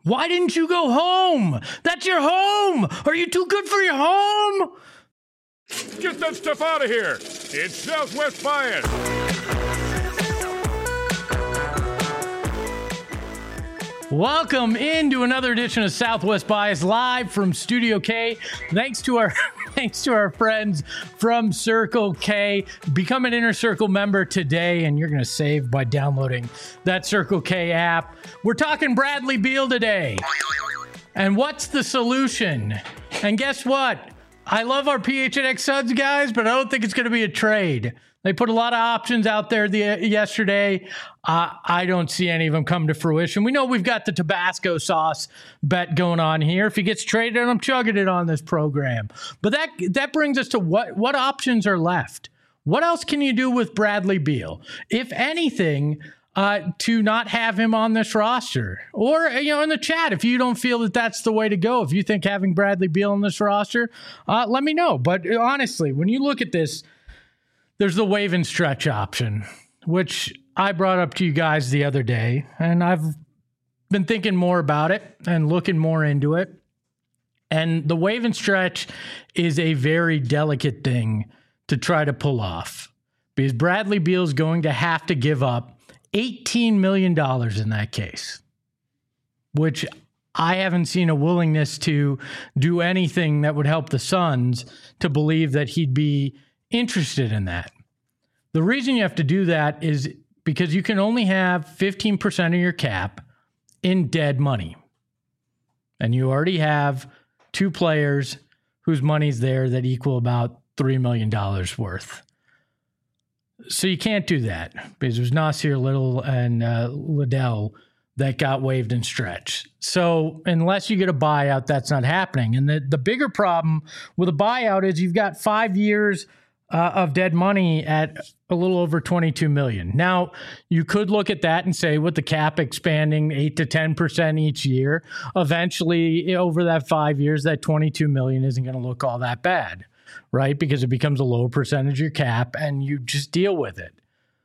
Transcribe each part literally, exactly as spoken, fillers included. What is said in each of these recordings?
Why didn't you go home? That's your home. Are you too good for your home? Get that stuff out of here. It's Southwest Bias. Welcome into another edition of Southwest Bias live from Studio K. Thanks to our thanks to our friends from Circle K. Become an Inner Circle member today, and you're going to save by downloading that Circle K app. We're talking Bradley Beal today. And what's the solution? And guess what? I love our P H N X Suns guys, but I don't think it's going to be a trade. They put a lot of options out there the, yesterday. Uh, I don't see any of them come to fruition. We know we've got the Tabasco sauce bet going on here. If he gets traded, I'm chugging it on this program. But that that brings us to what, what options are left. What else can you do with Bradley Beal? If anything, uh, to not have him on this roster. Or, you know, in the chat, if you don't feel that that's the way to go, if you think having Bradley Beal on this roster, uh, let me know. But honestly, when you look at this, there's the wave and stretch option, which I brought up to you guys the other day, and I've been thinking more about it and looking more into it. And the wave and stretch is a very delicate thing to try to pull off because Bradley Beal is going to have to give up eighteen million dollars in that case, which I haven't seen a willingness to do anything that would help the Suns to believe that he'd be interested in that. The reason you have to do that is because you can only have fifteen percent of your cap in dead money. And you already have two players whose money's there that equal about three million dollars worth. So you can't do that because it was Nasir Little and uh, Liddell that got waived and stretched. So unless you get a buyout, that's not happening. And the, the bigger problem with a buyout is you've got five years Uh, of dead money at a little over twenty-two million dollars. Now, you could look at that and say with the cap expanding eight to ten percent each year, eventually over that five years, that twenty-two million dollars isn't going to look all that bad, right? Because it becomes a lower percentage of your cap and you just deal with it.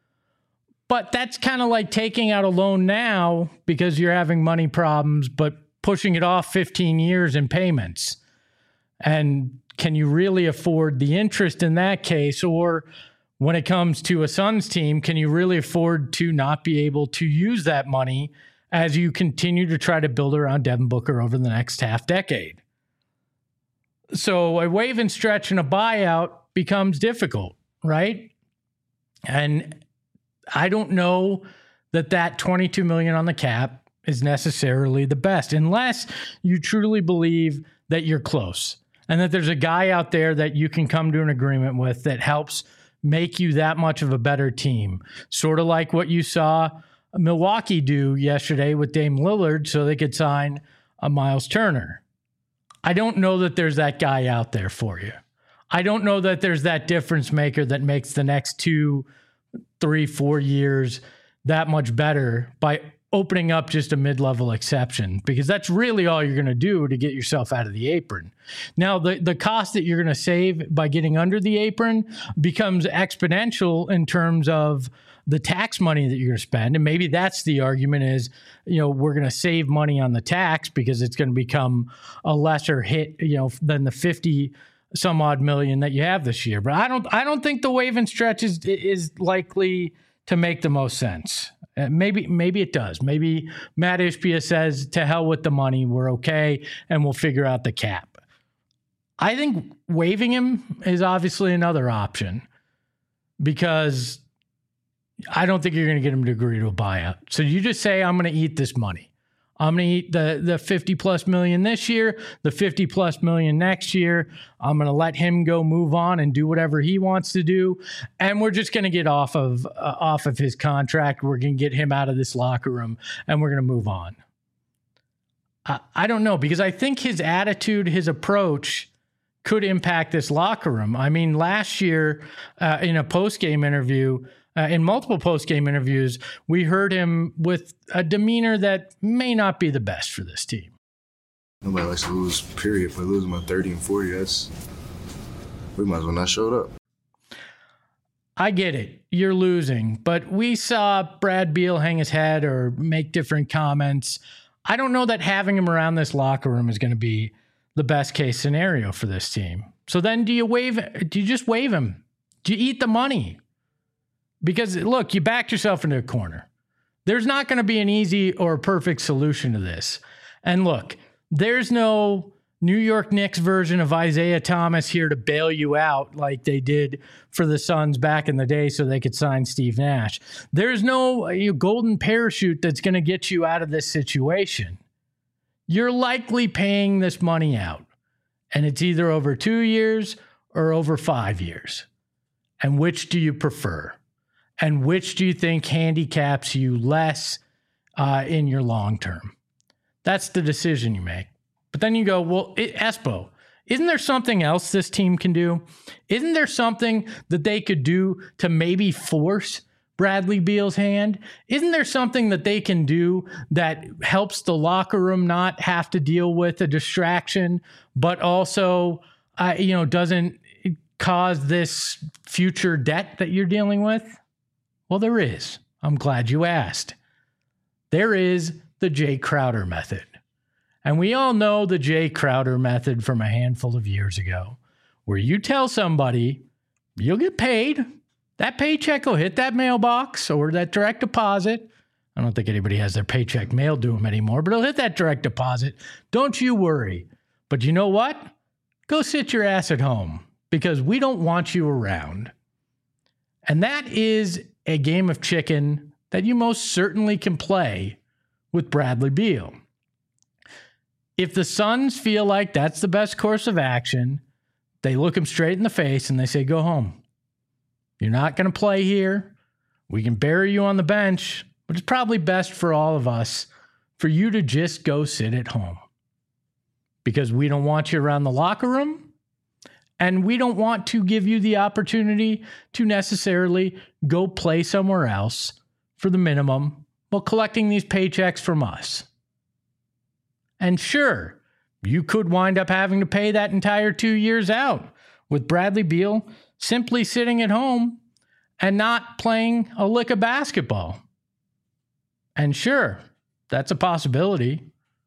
But that's kind of like taking out a loan now because you're having money problems, but pushing it off fifteen years in payments. And can you really afford the interest in that case? Or when it comes to a Suns team, can you really afford to not be able to use that money as you continue to try to build around Devin Booker over the next half decade? So a wave and stretch and a buyout becomes difficult, right? And I don't know that that twenty-two million dollars on the cap is necessarily the best unless you truly believe that you're close. And that there's a guy out there that you can come to an agreement with that helps make you that much of a better team. Sort of like what you saw Milwaukee do yesterday with Dame Lillard so they could sign a Miles Turner. I don't know that there's that guy out there for you. I don't know that there's that difference maker that makes the next two, three, four years that much better by opening up just a mid-level exception, because that's really all you're going to do to get yourself out of the apron. Now, the, the cost that you're going to save by getting under the apron becomes exponential in terms of the tax money that you're going to spend. And maybe that's the argument is, you know, we're going to save money on the tax because it's going to become a lesser hit, you know, than the fifty some odd million that you have this year. But I don't, I don't think the wave and stretch is, is likely to make the most sense. Uh, maybe maybe it does. Maybe Matt Ishbia says, to hell with the money, we're okay, and we'll figure out the cap. I think waiving him is obviously another option because I don't think you're going to get him to agree to a buyout. So you just say, I'm going to eat this money. I'm going to eat the, the fifty plus million this year, the fifty plus million next year. I'm going to let him go move on and do whatever he wants to do. And we're just going to get off of, uh, off of his contract. We're going to get him out of this locker room and we're going to move on. I, I don't know, because I think his attitude, his approach could impact this locker room. I mean, last year uh, in a post-game interview, Uh, in multiple post-game interviews, we heard him with a demeanor that may not be the best for this team. Nobody likes to lose, period. If we're losing by thirty and forty, that's, we might as well not show up. I get it. You're losing. But we saw Brad Beal hang his head or make different comments. I don't know that having him around this locker room is going to be the best case scenario for this team. So then do you waive, do you just waive him? Do you eat the money? Because look, you backed yourself into a corner. There's not going to be an easy or perfect solution to this. And look, there's no New York Knicks version of Isaiah Thomas here to bail you out like they did for the Suns back in the day so they could sign Steve Nash. There's no you know, golden parachute that's going to get you out of this situation. You're likely paying this money out, and it's either over two years or over five years. And which do you prefer? And which do you think handicaps you less uh, in your long term? That's the decision you make. But then you go, well, it, Espo, isn't there something else this team can do? Isn't there something that they could do to maybe force Bradley Beal's hand? Isn't there something that they can do that helps the locker room not have to deal with a distraction, but also, uh, you know, doesn't cause this future debt that you're dealing with? Well, there is. I'm glad you asked. There is the Jay Crowder method. And we all know the Jay Crowder method from a handful of years ago, where you tell somebody you'll get paid. That paycheck will hit that mailbox or that direct deposit. I don't think anybody has their paycheck mailed to them anymore, but it'll hit that direct deposit. Don't you worry. But you know what? Go sit your ass at home because we don't want you around. And that is a game of chicken that you most certainly can play with Bradley Beal. If the Suns feel like that's the best course of action, they look him straight in the face and they say, go home. You're not going to play here. We can bury you on the bench, but it's probably best for all of us for you to just go sit at home because we don't want you around the locker room and we don't want to give you the opportunity to necessarily go play somewhere else for the minimum while collecting these paychecks from us. And sure, you could wind up having to pay that entire two years out with Bradley Beal simply sitting at home and not playing a lick of basketball. And sure, that's a possibility.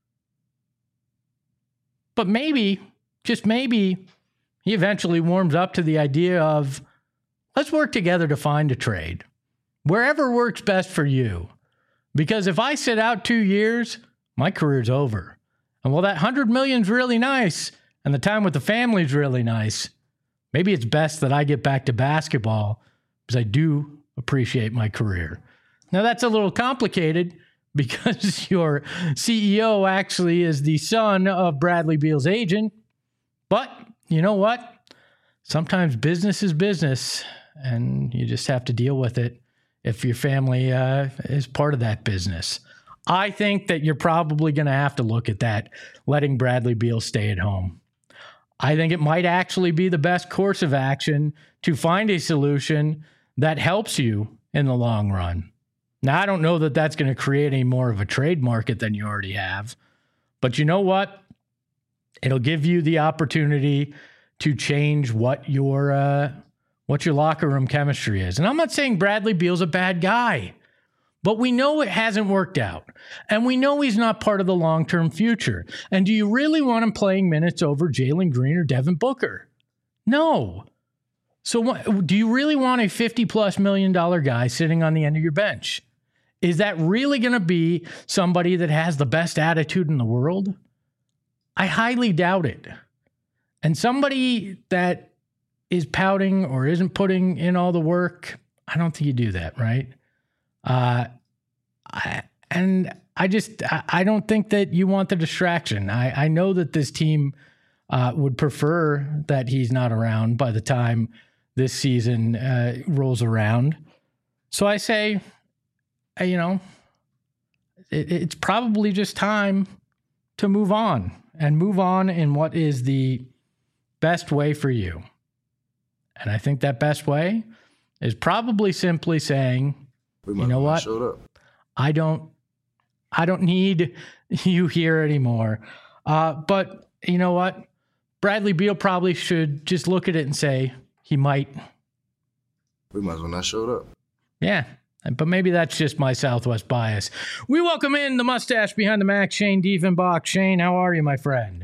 But maybe, just maybe, he eventually warms up to the idea of, let's work together to find a trade. Wherever works best for you. Because if I sit out two years, my career's over. And while that one hundred million is really nice, and the time with the family is really nice, maybe it's best that I get back to basketball because I do appreciate my career. Now, that's a little complicated because your C E O actually is the son of Bradley Beal's agent. But you know what? Sometimes business is business, and you just have to deal with it if your family uh, is part of that business. I think that you're probably going to have to look at that, letting Bradley Beal stay at home. I think it might actually be the best course of action to find a solution that helps you in the long run. Now, I don't know that that's going to create any more of a trade market than you already have, but you know what? It'll give you the opportunity to change what your uh, what your locker room chemistry is. And I'm not saying Bradley Beal's a bad guy. But we know it hasn't worked out, and we know he's not part of the long-term future. And do you really want him playing minutes over Jalen Green or Devin Booker? No. So what, do you really want a fifty-plus million dollar guy sitting on the end of your bench? Is that really going to be somebody that has the best attitude in the world? I highly doubt it. And somebody that is pouting or isn't putting in all the work, I don't think you do that, right? Uh, I, and I just, I, I don't think that you want the distraction. I, I know that this team uh, would prefer that he's not around by the time this season uh, rolls around. So I say, uh, you know, it, it's probably just time to move on and move on in what is the best way for you. And I think that best way is probably simply saying, you know what? I don't, I don't need you here anymore. Uh, but you know what? Bradley Beal probably should just look at it and say he might. We might as well not show up. Yeah. But maybe that's just my Southwest bias. We welcome in the mustache behind the Mac, Shane Diefenbach. Shane, how are you, my friend?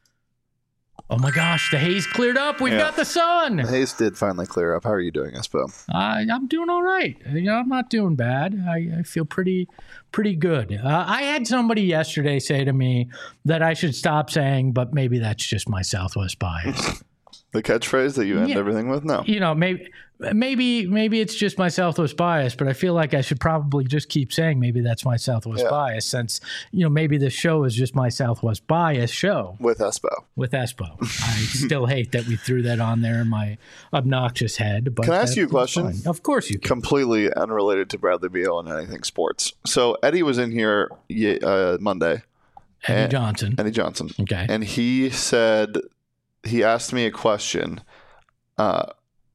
Oh my gosh, the haze cleared up. We've yeah. got the sun. The haze did finally clear up. How are you doing, Espo? Uh, I'm doing all right. You know, I'm not doing bad. I, I feel pretty, pretty good. Uh, I had somebody yesterday say to me that I should stop saying, but maybe that's just my Southwest bias. The catchphrase that you end yeah. everything with? No. You know, maybe maybe maybe it's just my Southwest bias, but I feel like I should probably just keep saying maybe that's my Southwest yeah. bias, since, you know, maybe this show is just my Southwest bias show. With Espo. With Espo. I still hate that we threw that on there in my obnoxious head. But can I ask you a question? Fine. Of course you can. Completely unrelated to Bradley Beal and anything sports. So Eddie was in here uh, Monday. Eddie and, Johnson. Eddie Johnson. Okay. And he said... He asked me a question. Uh,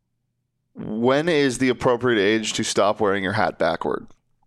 when is the appropriate age to stop wearing your hat backward?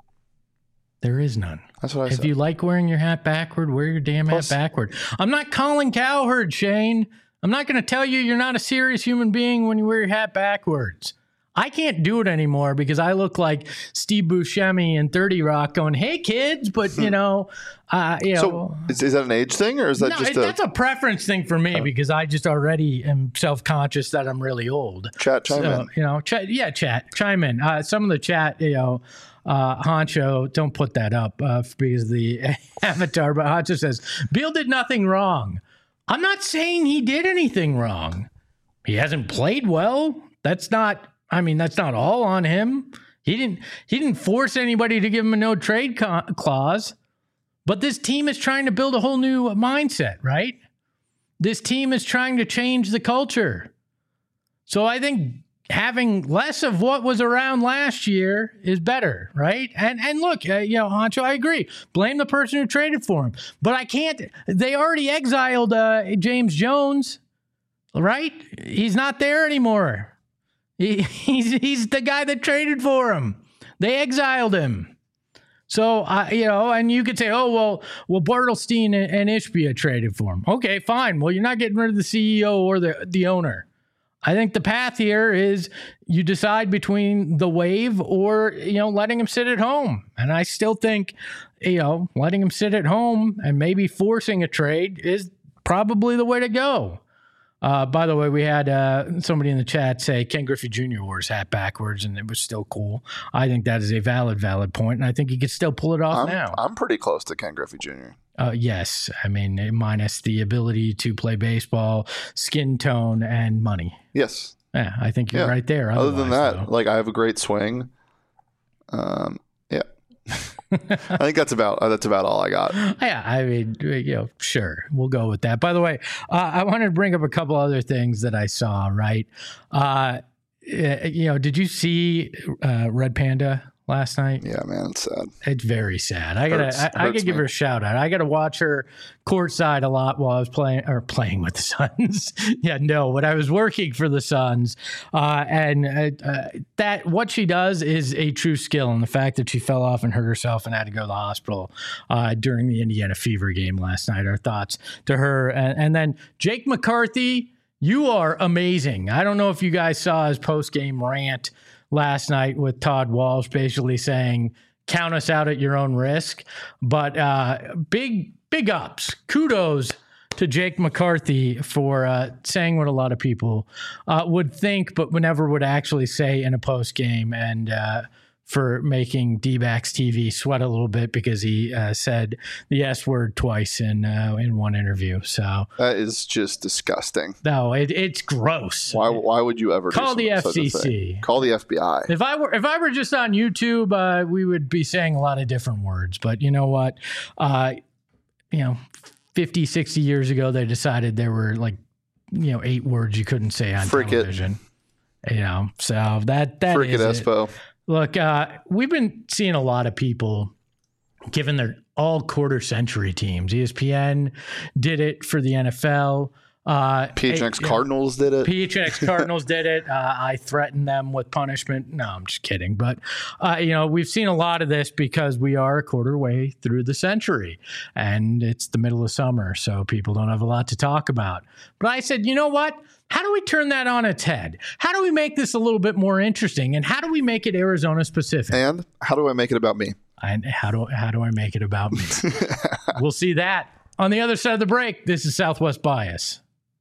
There is none. That's what I if said. If you like wearing your hat backward, wear your damn Plus, hat backward. I'm not Colin Cowherd, Shane. I'm not going to tell you you're not a serious human being when you wear your hat backwards. I can't do it anymore because I look like Steve Buscemi in thirty Rock going, hey, kids, but, you know, uh, you so know. Is, is that an age thing or is that no, just it, a... that's a preference thing for me because I just already am self-conscious that I'm really old. Chat, chime so, in. You know, ch- yeah, chat, chime in. Uh, some of the chat, you know, uh, Honcho, don't put that up uh, because the avatar, but Honcho says, Beal did nothing wrong. I'm not saying he did anything wrong. He hasn't played well. That's not... I mean, that's not all on him. He didn't he didn't force anybody to give him a no trade co- clause. But this team is trying to build a whole new mindset, right? This team is trying to change the culture. So I think having less of what was around last year is better, right? And and look, uh, you know, Honcho, I agree. Blame the person who traded for him. But I can't. They already exiled uh, James Jones, right? He's not there anymore. He, he's he's the guy that traded for him. They exiled him. So, I, you know, and you could say, oh, well, well, Bartelstein and, and Ishbia traded for him. Okay, fine. Well, you're not getting rid of the C E O or the, the owner. I think the path here is you decide between the wave or, you know, letting him sit at home. And I still think, you know, letting him sit at home and maybe forcing a trade is probably the way to go. Uh, by the way, we had uh, somebody in the chat say Ken Griffey Junior wore his hat backwards, and it was still cool. I think that is a valid, valid point, and I think he could still pull it off I'm, now. I'm pretty close to Ken Griffey Junior Uh, yes. I mean, minus the ability to play baseball, skin tone, and money. Yes. Yeah, I think you're yeah. right there. Other than that, though. like I have a great swing. Um, yeah. I think that's about uh, that's about all I got. Yeah, I mean, you know, sure, we'll go with that. By the way, uh, I wanted to bring up a couple other things that I saw. Right, uh, you know, did you see uh, Red Panda last night? Yeah, man, it's sad. It's very sad. I gotta, hurts, I, I gotta give me. her a shout out. I gotta watch her courtside a lot while I was playing or playing with the Suns. yeah, no, when I was working for the Suns, uh, and uh, uh, that what she does is a true skill. And the fact that she fell off and hurt herself and had to go to the hospital uh, during the Indiana Fever game last night. Our thoughts to her, and, and then Jake McCarthy. You are amazing. I don't know if you guys saw his post game rant last night with Todd Walsh basically saying, count us out at your own risk. But uh, big, big ups. Kudos to Jake McCarthy for uh, saying what a lot of people uh, would think, but never would actually say in a post game, and uh, for making D-backs T V sweat a little bit because he uh, said the S word twice in uh, in one interview. So that is just disgusting. No, it, it's gross. Why Why would you ever call do the F C C? Such a thing? Call the F B I. If I were if I were just on YouTube, uh, we would be saying a lot of different words. But you know what? Uh, you know, fifty, sixty years ago, they decided there were like, you know, eight words you couldn't say on Frick television. It. You know, so that that Frick is it, Espo. Look, uh, we've been seeing a lot of people given their all quarter century teams. E S P N did it for the N F L. Uh, P H N X yeah, Cardinals did it. P H N X Cardinals did it. Uh, I threatened them with punishment. No, I'm just kidding. But, uh, you know, we've seen a lot of this because we are a quarter way through the century and it's the middle of summer. So people don't have a lot to talk about. But I said, you know what? How do we turn that on its head? How do we make this a little bit more interesting? And how do we make it Arizona specific? And how do I make it about me? And how do, how do I make it about me? We'll see that on the other side of the break. This is Southwest Bias.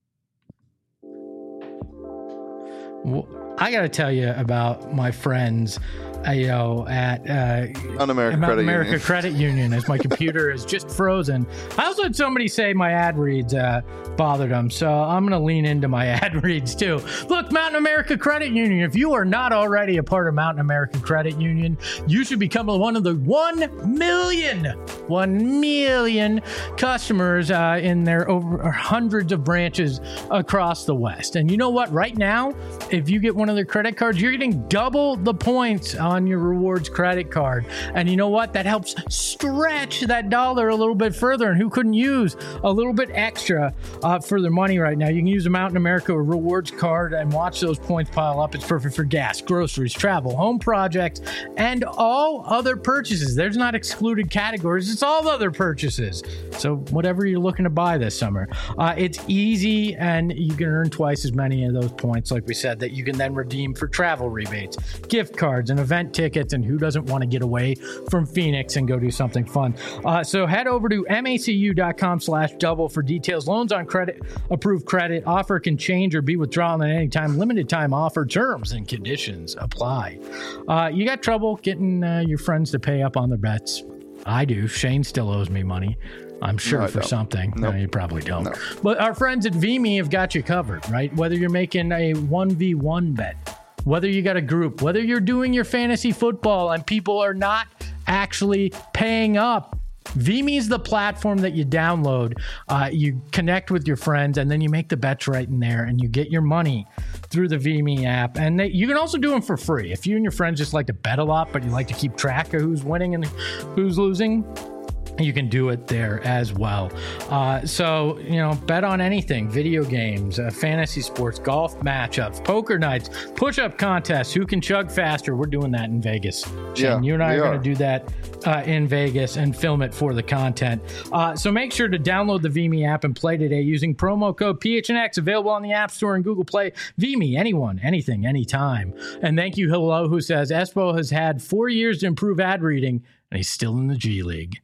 Well, I got to tell you about my friends, uh, you know, at uh, Mountain America, Mountain Credit, America Union. Credit Union, as my computer is just frozen. I also had somebody say my ad reads uh, bothered them, so I'm going to lean into my ad reads too. Look, Mountain America Credit Union, if you are not already a part of Mountain America Credit Union, you should become one of the one million, one million customers uh, in their over hundreds of branches across the West. And you know what? Right now, if you get one of their credit cards, you're getting double the points on your rewards credit card. And you know what? That helps stretch that dollar a little bit further. And who couldn't use a little bit extra uh, for their money right now? You can use a Mountain America rewards card and watch those points pile up. It's perfect for gas, groceries, travel, home projects, and all other purchases. There's not excluded categories. It's all other purchases. So whatever you're looking to buy this summer, uh, it's easy and you can earn twice as many of those points, like we said, that you can then redeem for travel rebates, gift cards, and event tickets. And who doesn't want to get away from Phoenix and go do something fun? Uh, so head over to macu.com slash double for details. Loans on credit, approved credit. Offer can change or be withdrawn at any time. Limited time offer. Terms and conditions apply. Uh, you got trouble getting uh, your friends to pay up on their bets? I do. Shane still owes me money, I'm sure, No, for don't. something. Nope. No, you probably don't. No. But our friends at V M E have got you covered, right? Whether you're making a one v one bet, whether you got a group, whether you're doing your fantasy football and people are not actually paying up, V M E is the platform that you download, uh, you connect with your friends, and then you make the bets right in there, and you get your money through the V M E app. And they, you can also do them for free. If you and your friends just like to bet a lot, but you like to keep track of who's winning and who's losing, you can do it there as well. Uh, so, you know, bet on anything: video games, uh, fantasy sports, golf matchups, poker nights, push-up contests, who can chug faster. We're doing that in Vegas. Shane, Yeah, you and I we are are. going to do that uh, in Vegas and film it for the content. Uh, so make sure to download the V M E app and play today using promo code P H N X, available on the App Store and Google Play. V M E, anyone, anything, anytime. And thank you, Hello, who says, Espo has had four years to improve ad reading, and he's still in the G League.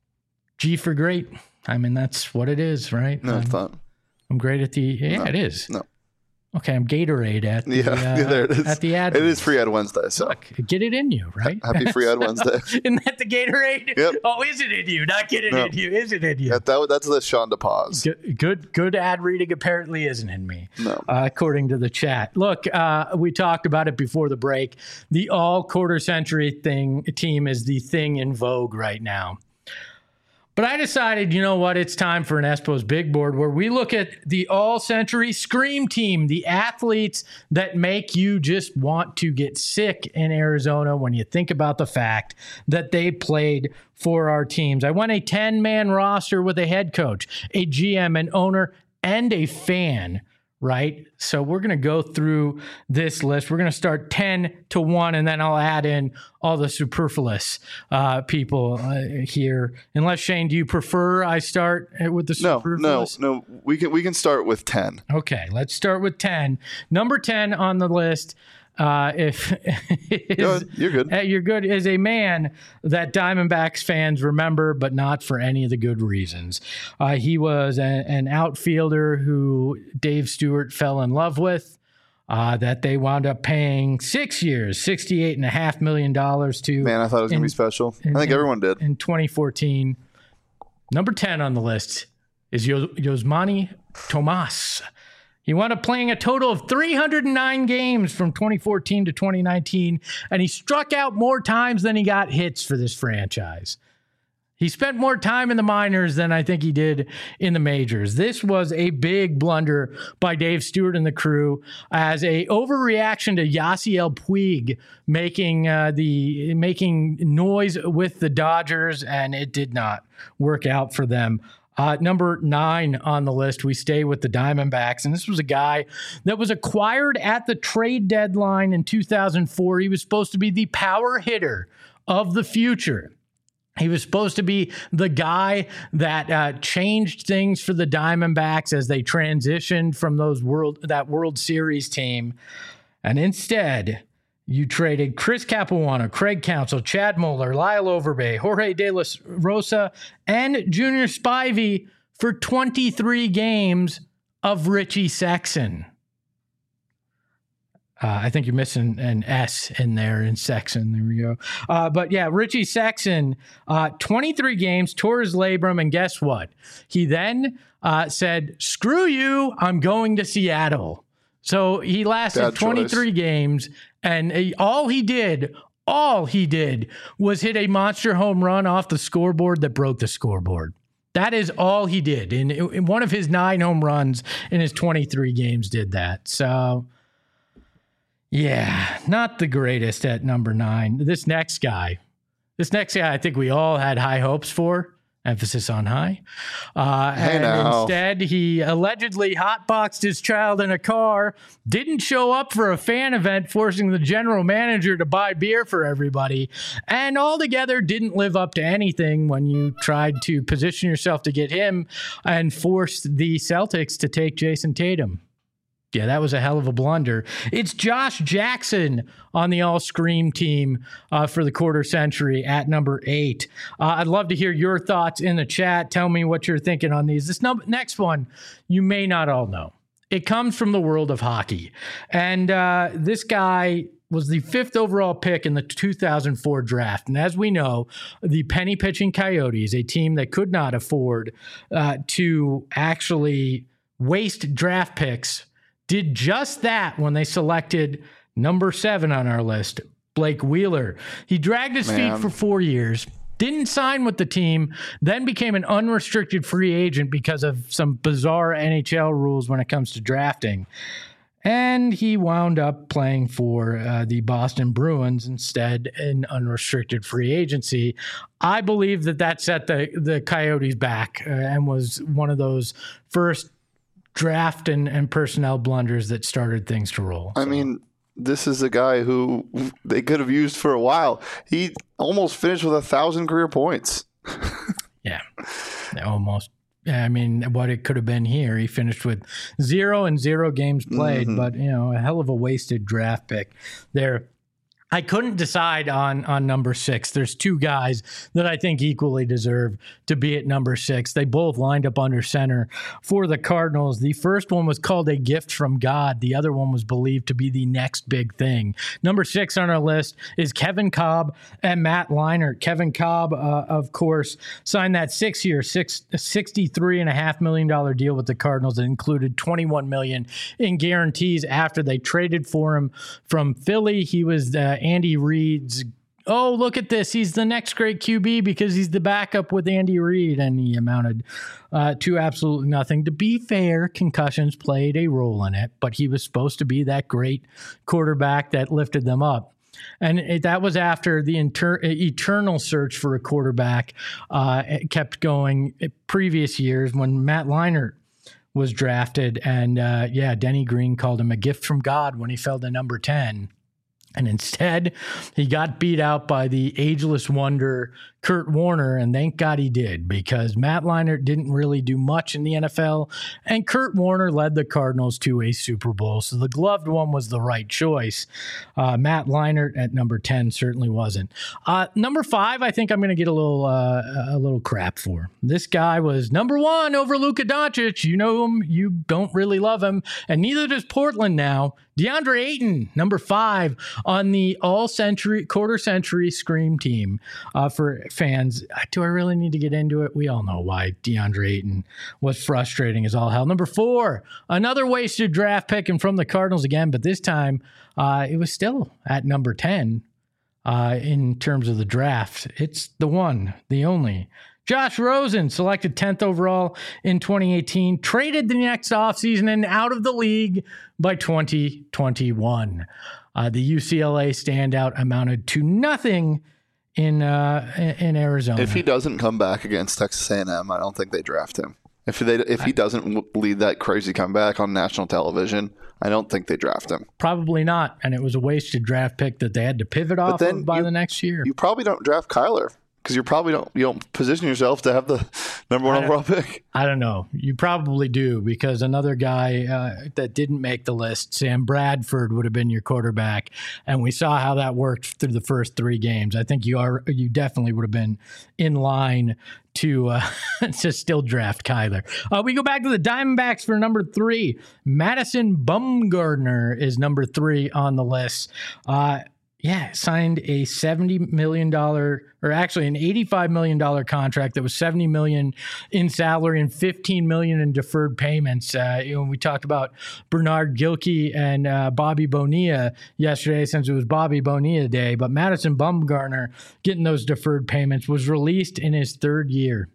G for great. I mean, that's what it is, right? No, I'm, it's not. I'm great at the, yeah, No. it is. No. Okay, I'm Gatorade at the, Yeah, uh, there it is. at the ad. It is free ad Wednesday, so Look, get it in you, right? happy free ad Wednesday. Isn't that the Gatorade? Yep. Oh, is it in you? Not get it No. in you. Is it in you? That, that, that's the Sean DePaz. Good, good, good ad reading apparently isn't in me, No. uh, according to the chat. Look, uh, we talked about it before the break. The all quarter century thing team is the thing in vogue right now. But I decided, you know what, it's time for an Espo's Big Board, where we look at the all-century Scream Team, the athletes that make you just want to get sick in Arizona when you think about the fact that they played for our teams. I won a ten-man roster with a head coach, a G M, an owner, and a fan, right? So we're going to go through this list. We're going to start ten to one, and then I'll add in all the superfluous uh, people uh, here. Unless, Shane, do you prefer I start with the No, no, superfluous? no. We can we can start with ten. Okay, let's start with ten. Number ten on the list, uh, if is, Go ahead. You're good. uh, you're good, is a man that Diamondbacks fans remember, but not for any of the good reasons. Uh, he was a, an outfielder who Dave Stewart fell in love with, uh, that they wound up paying six years, sixty-eight point five million dollars to Man, I thought it was going to in- be special. I in- think everyone did. in twenty fourteen. Number ten on the list is Yo- Yosmani Tomas. He wound up playing a total of three hundred nine games from twenty fourteen to twenty nineteen, and he struck out more times than he got hits for this franchise. He spent more time in the minors than I think he did in the majors. This was a big blunder by Dave Stewart and the crew as a overreaction to Yasiel Puig making uh, the making noise with the Dodgers, and it did not work out for them. Uh, number nine on the list, we stay with the Diamondbacks. And this was a guy that was acquired at the trade deadline in two thousand four. He was supposed to be the power hitter of the future. He was supposed to be the guy that uh, changed things for the Diamondbacks as they transitioned from those world that World Series team. And instead, you traded Chris Capuano, Craig Counsell, Chad Moeller, Lyle Overbay, Jorge De La Rosa, and Junior Spivey for twenty-three games of Richie Sexson. Uh, I think you're missing an S in there in Sexson. There we go. Uh, but yeah, Richie Sexson, uh, twenty-three games, tore his labrum, and guess what? He then uh, said, screw you, I'm going to Seattle. So he lasted twenty-three games, and he, all he did, all he did was hit a monster home run off the scoreboard that broke the scoreboard. That is all he did. And in, in one of his nine home runs in his twenty-three games did that. So, yeah, not the greatest at number nine. This next guy, this next guy I think we all had high hopes for. Emphasis on high. Uh, hey and now. Instead, he allegedly hotboxed his child in a car, didn't show up for a fan event, forcing the general manager to buy beer for everybody, and altogether didn't live up to anything when you tried to position yourself to get him and forced the Celtics to take Jason Tatum. Yeah, that was a hell of a blunder. It's Josh Jackson on the all-scream team uh, for the quarter century at number eight. Uh, I'd love to hear your thoughts in the chat. Tell me what you're thinking on these. This num- next one, you may not all know. It comes from the world of hockey. And uh, this guy was the fifth overall pick in the two thousand four draft. And as we know, the penny pitching Coyotes, a team that could not afford uh, to actually waste draft picks, did just that when they selected number seven on our list, Blake Wheeler. He dragged his Man. feet for four years, didn't sign with the team, then became an unrestricted free agent because of some bizarre N H L rules when it comes to drafting. And he wound up playing for uh, the Boston Bruins instead in unrestricted free agency. I believe that that set the, the Coyotes back uh, and was one of those first draft and, and personnel blunders that started things to roll. I so. mean, this is a guy who they could have used for a while. He almost finished with a thousand career points. yeah, almost. Yeah, I mean, what it could have been here. He finished with zero and zero games played, mm-hmm. but, you know, a hell of a wasted draft pick there. I couldn't decide on on number six. There's two guys that I think equally deserve to be at number six. They both lined up under center for the Cardinals. The first one was called a gift from God. The other one was believed to be the next big thing. Number six on our list is Kevin Kolb and Matt Leinart. Kevin Kolb, uh, of course, signed that six-year, six, sixty-three point five million dollars deal with the Cardinals that included twenty-one million dollars in guarantees after they traded for him from Philly. He was uh, Andy Reid's, oh, look at this, he's the next great Q B because he's the backup with Andy Reid, and he amounted uh, to absolutely nothing. To be fair, concussions played a role in it, but he was supposed to be that great quarterback that lifted them up. And it, that was after the inter- eternal search for a quarterback uh, it kept going previous years when Matt Leinart was drafted. And uh, yeah, Denny Green called him a gift from God when he fell to number ten. And instead, he got beat out by the ageless wonder, Kurt Warner, and thank God he did, because Matt Leinart didn't really do much in the N F L, and Kurt Warner led the Cardinals to a Super Bowl, so the gloved one was the right choice. Uh, Matt Leinart at number ten certainly wasn't. Uh, number five, I think I'm going to get a little uh, a little crap for. This guy was number one over Luka Doncic. You know him, you don't really love him, and neither does Portland now. DeAndre Ayton, number five on the all-century, quarter-century Scream team uh, for fans. Do I really need to get into it? We all know why DeAndre Ayton was frustrating as all hell. Number four, another wasted draft pick and from the Cardinals again, but this time uh, it was still at number ten uh, in terms of the draft. It's the one, the only. Josh Rosen, selected tenth overall in twenty eighteen, traded the next offseason and out of the league by twenty twenty-one. Uh, the U C L A standout amounted to nothing in uh, in Arizona. If he doesn't come back against Texas A and M, I don't think they draft him. If they if he doesn't lead that crazy comeback on national television, I don't think they draft him. Probably not, and it was a wasted draft pick that they had to pivot off of by you, the next year. You probably don't draft Kyler because you probably don't you don't position yourself to have the number one overall pick. I don't know. You probably do, because another guy uh, that didn't make the list, Sam Bradford, would have been your quarterback, and we saw how that worked through the first three games. I think you are you definitely would have been in line to uh, to still draft Kyler. Uh, we go back to the Diamondbacks for number three. Madison Bumgarner is number three on the list. Uh, yeah, signed a seventy million dollars, or actually an eighty-five million dollars contract that was seventy million dollars in salary and fifteen million dollars in deferred payments. Uh, you know, we talked about Bernard Gilkey and uh, Bobby Bonilla yesterday, since it was Bobby Bonilla Day, but Madison Bumgarner getting those deferred payments, was released in his third year.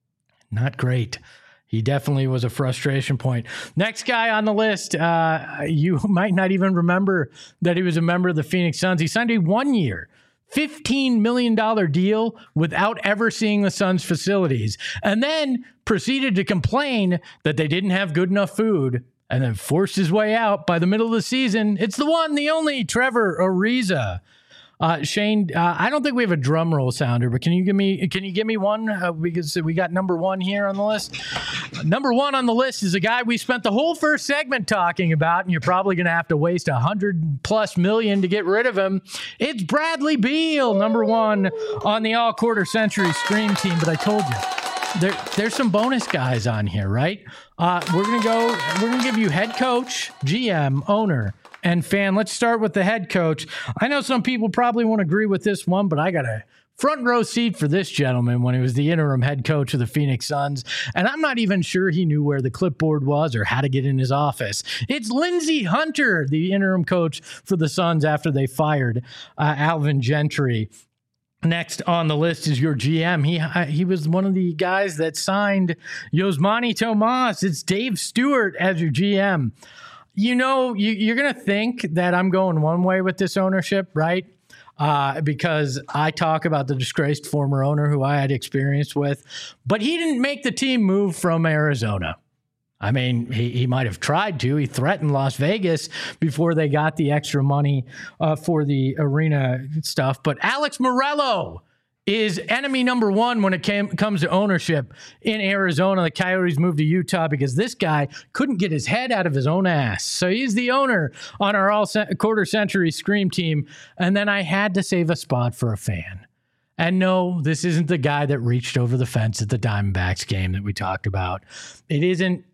Not great. He definitely was a frustration point. Next guy on the list, uh, you might not even remember that he was a member of the Phoenix Suns. He signed a one-year, fifteen million dollars deal without ever seeing the Suns' facilities, and then proceeded to complain that they didn't have good enough food, and then forced his way out by the middle of the season. It's the one, the only Trevor Ariza. Uh, Shane, uh, I don't think we have a drum roll sounder, but can you give me can you give me one? Uh, because we got number one here on the list. Number one on the list is a guy we spent the whole first segment talking about, and you're probably going to have to waste a hundred plus million to get rid of him. It's Bradley Beal, number one on the all quarter century stream team. But I told you, there there's some bonus guys on here, right? Uh, we're gonna go. We're gonna give you head coach, G M, owner, and fan. Let's start with the head coach. I know some people probably won't agree with this one, but I got a front row seat for this gentleman when he was the interim head coach of the Phoenix Suns, and I'm not even sure he knew where the clipboard was or how to get in his office. It's Lindsey Hunter, the interim coach for the Suns after they fired uh, Alvin Gentry. Next on the list is your G M. He he was one of the guys that signed Yosmani Tomas. It's Dave Stewart as your G M. You know, you, you're going to think that I'm going one way with this ownership, right? Uh, because I talk about the disgraced former owner who I had experience with, but he didn't make the team move from Arizona. I mean, he, he might have tried to. He threatened Las Vegas before they got the extra money uh, for the arena stuff. But Alex Morello is enemy number one when it came, comes to ownership in Arizona. The Coyotes moved to Utah because this guy couldn't get his head out of his own ass. So he's the owner on our all ce- quarter century Scream team. And then I had to save a spot for a fan. And no, this isn't the guy that reached over the fence at the Diamondbacks game that we talked about. It isn't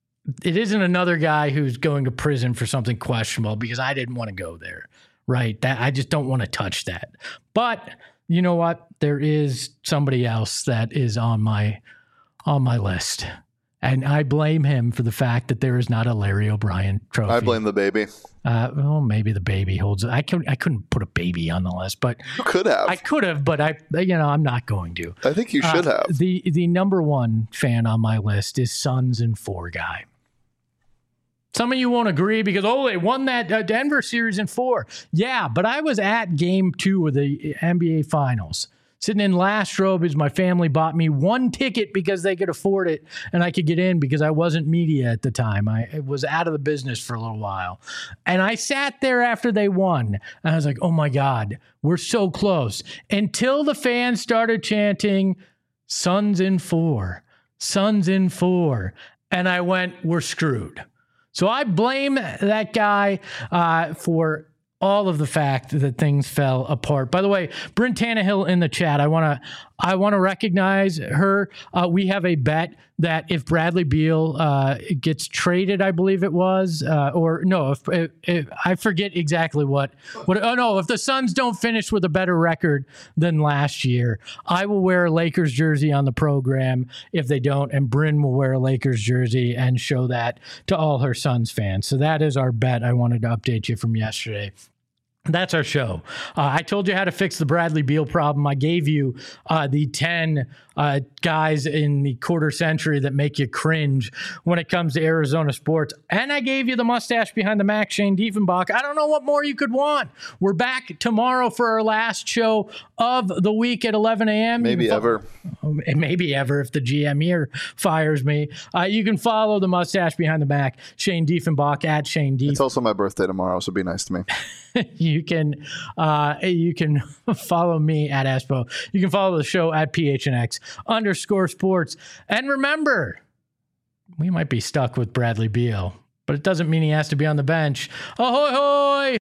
It isn't another guy who's going to prison for something questionable, because I didn't want to go there, right? That I just don't want to touch that. But you know what? There is somebody else that is on my on my list, and I blame him for the fact that there is not a Larry O'Brien trophy. I blame the baby. Uh, well, maybe the baby holds it. I could I couldn't put a baby on the list, but you could have. I could have, but I you know I'm not going to. I think you should uh, have. The the number one fan on my list is Suns in four guy. Some of you won't agree because, oh, they won that uh, Denver series in four. Yeah, but I was at game two of the N B A Finals, sitting in last row because my family bought me one ticket because they could afford it, and I could get in because I wasn't media at the time. I was out of the business for a little while. And I sat there after they won, and I was like, oh, my God, we're so close. Until the fans started chanting, Suns in four, Suns in four. And I went, we're screwed. So I blame that guy uh, for all of the fact that things fell apart. By the way, Bryn Tannehill in the chat, I want to I want to recognize her. Uh, we have a bet that if Bradley Beal uh, gets traded, I believe it was, uh, or no, if, if, if I forget exactly what, what. Oh no, if the Suns don't finish with a better record than last year, I will wear a Lakers jersey on the program. If they don't, and Bryn will wear a Lakers jersey and show that to all her Suns fans. So that is our bet. I wanted to update you from yesterday. That's our show. Uh, I told you how to fix the Bradley Beal problem. I gave you uh, the ten uh, guys in the quarter century that make you cringe when it comes to Arizona sports. And I gave you the mustache behind the Mac, Shane Diefenbach. I don't know what more you could want. We're back tomorrow for our last show of the week at eleven a.m. Maybe fo- ever. Maybe ever if the G M here fires me. Uh, you can follow the mustache behind the Mac, Shane Diefenbach, at Shane Dief. It's also my birthday tomorrow, so be nice to me. You can uh, you can follow me at Espo. You can follow the show at P H N X underscore sports. And remember, we might be stuck with Bradley Beal, but it doesn't mean he has to be on the bench. Ahoy, hoy!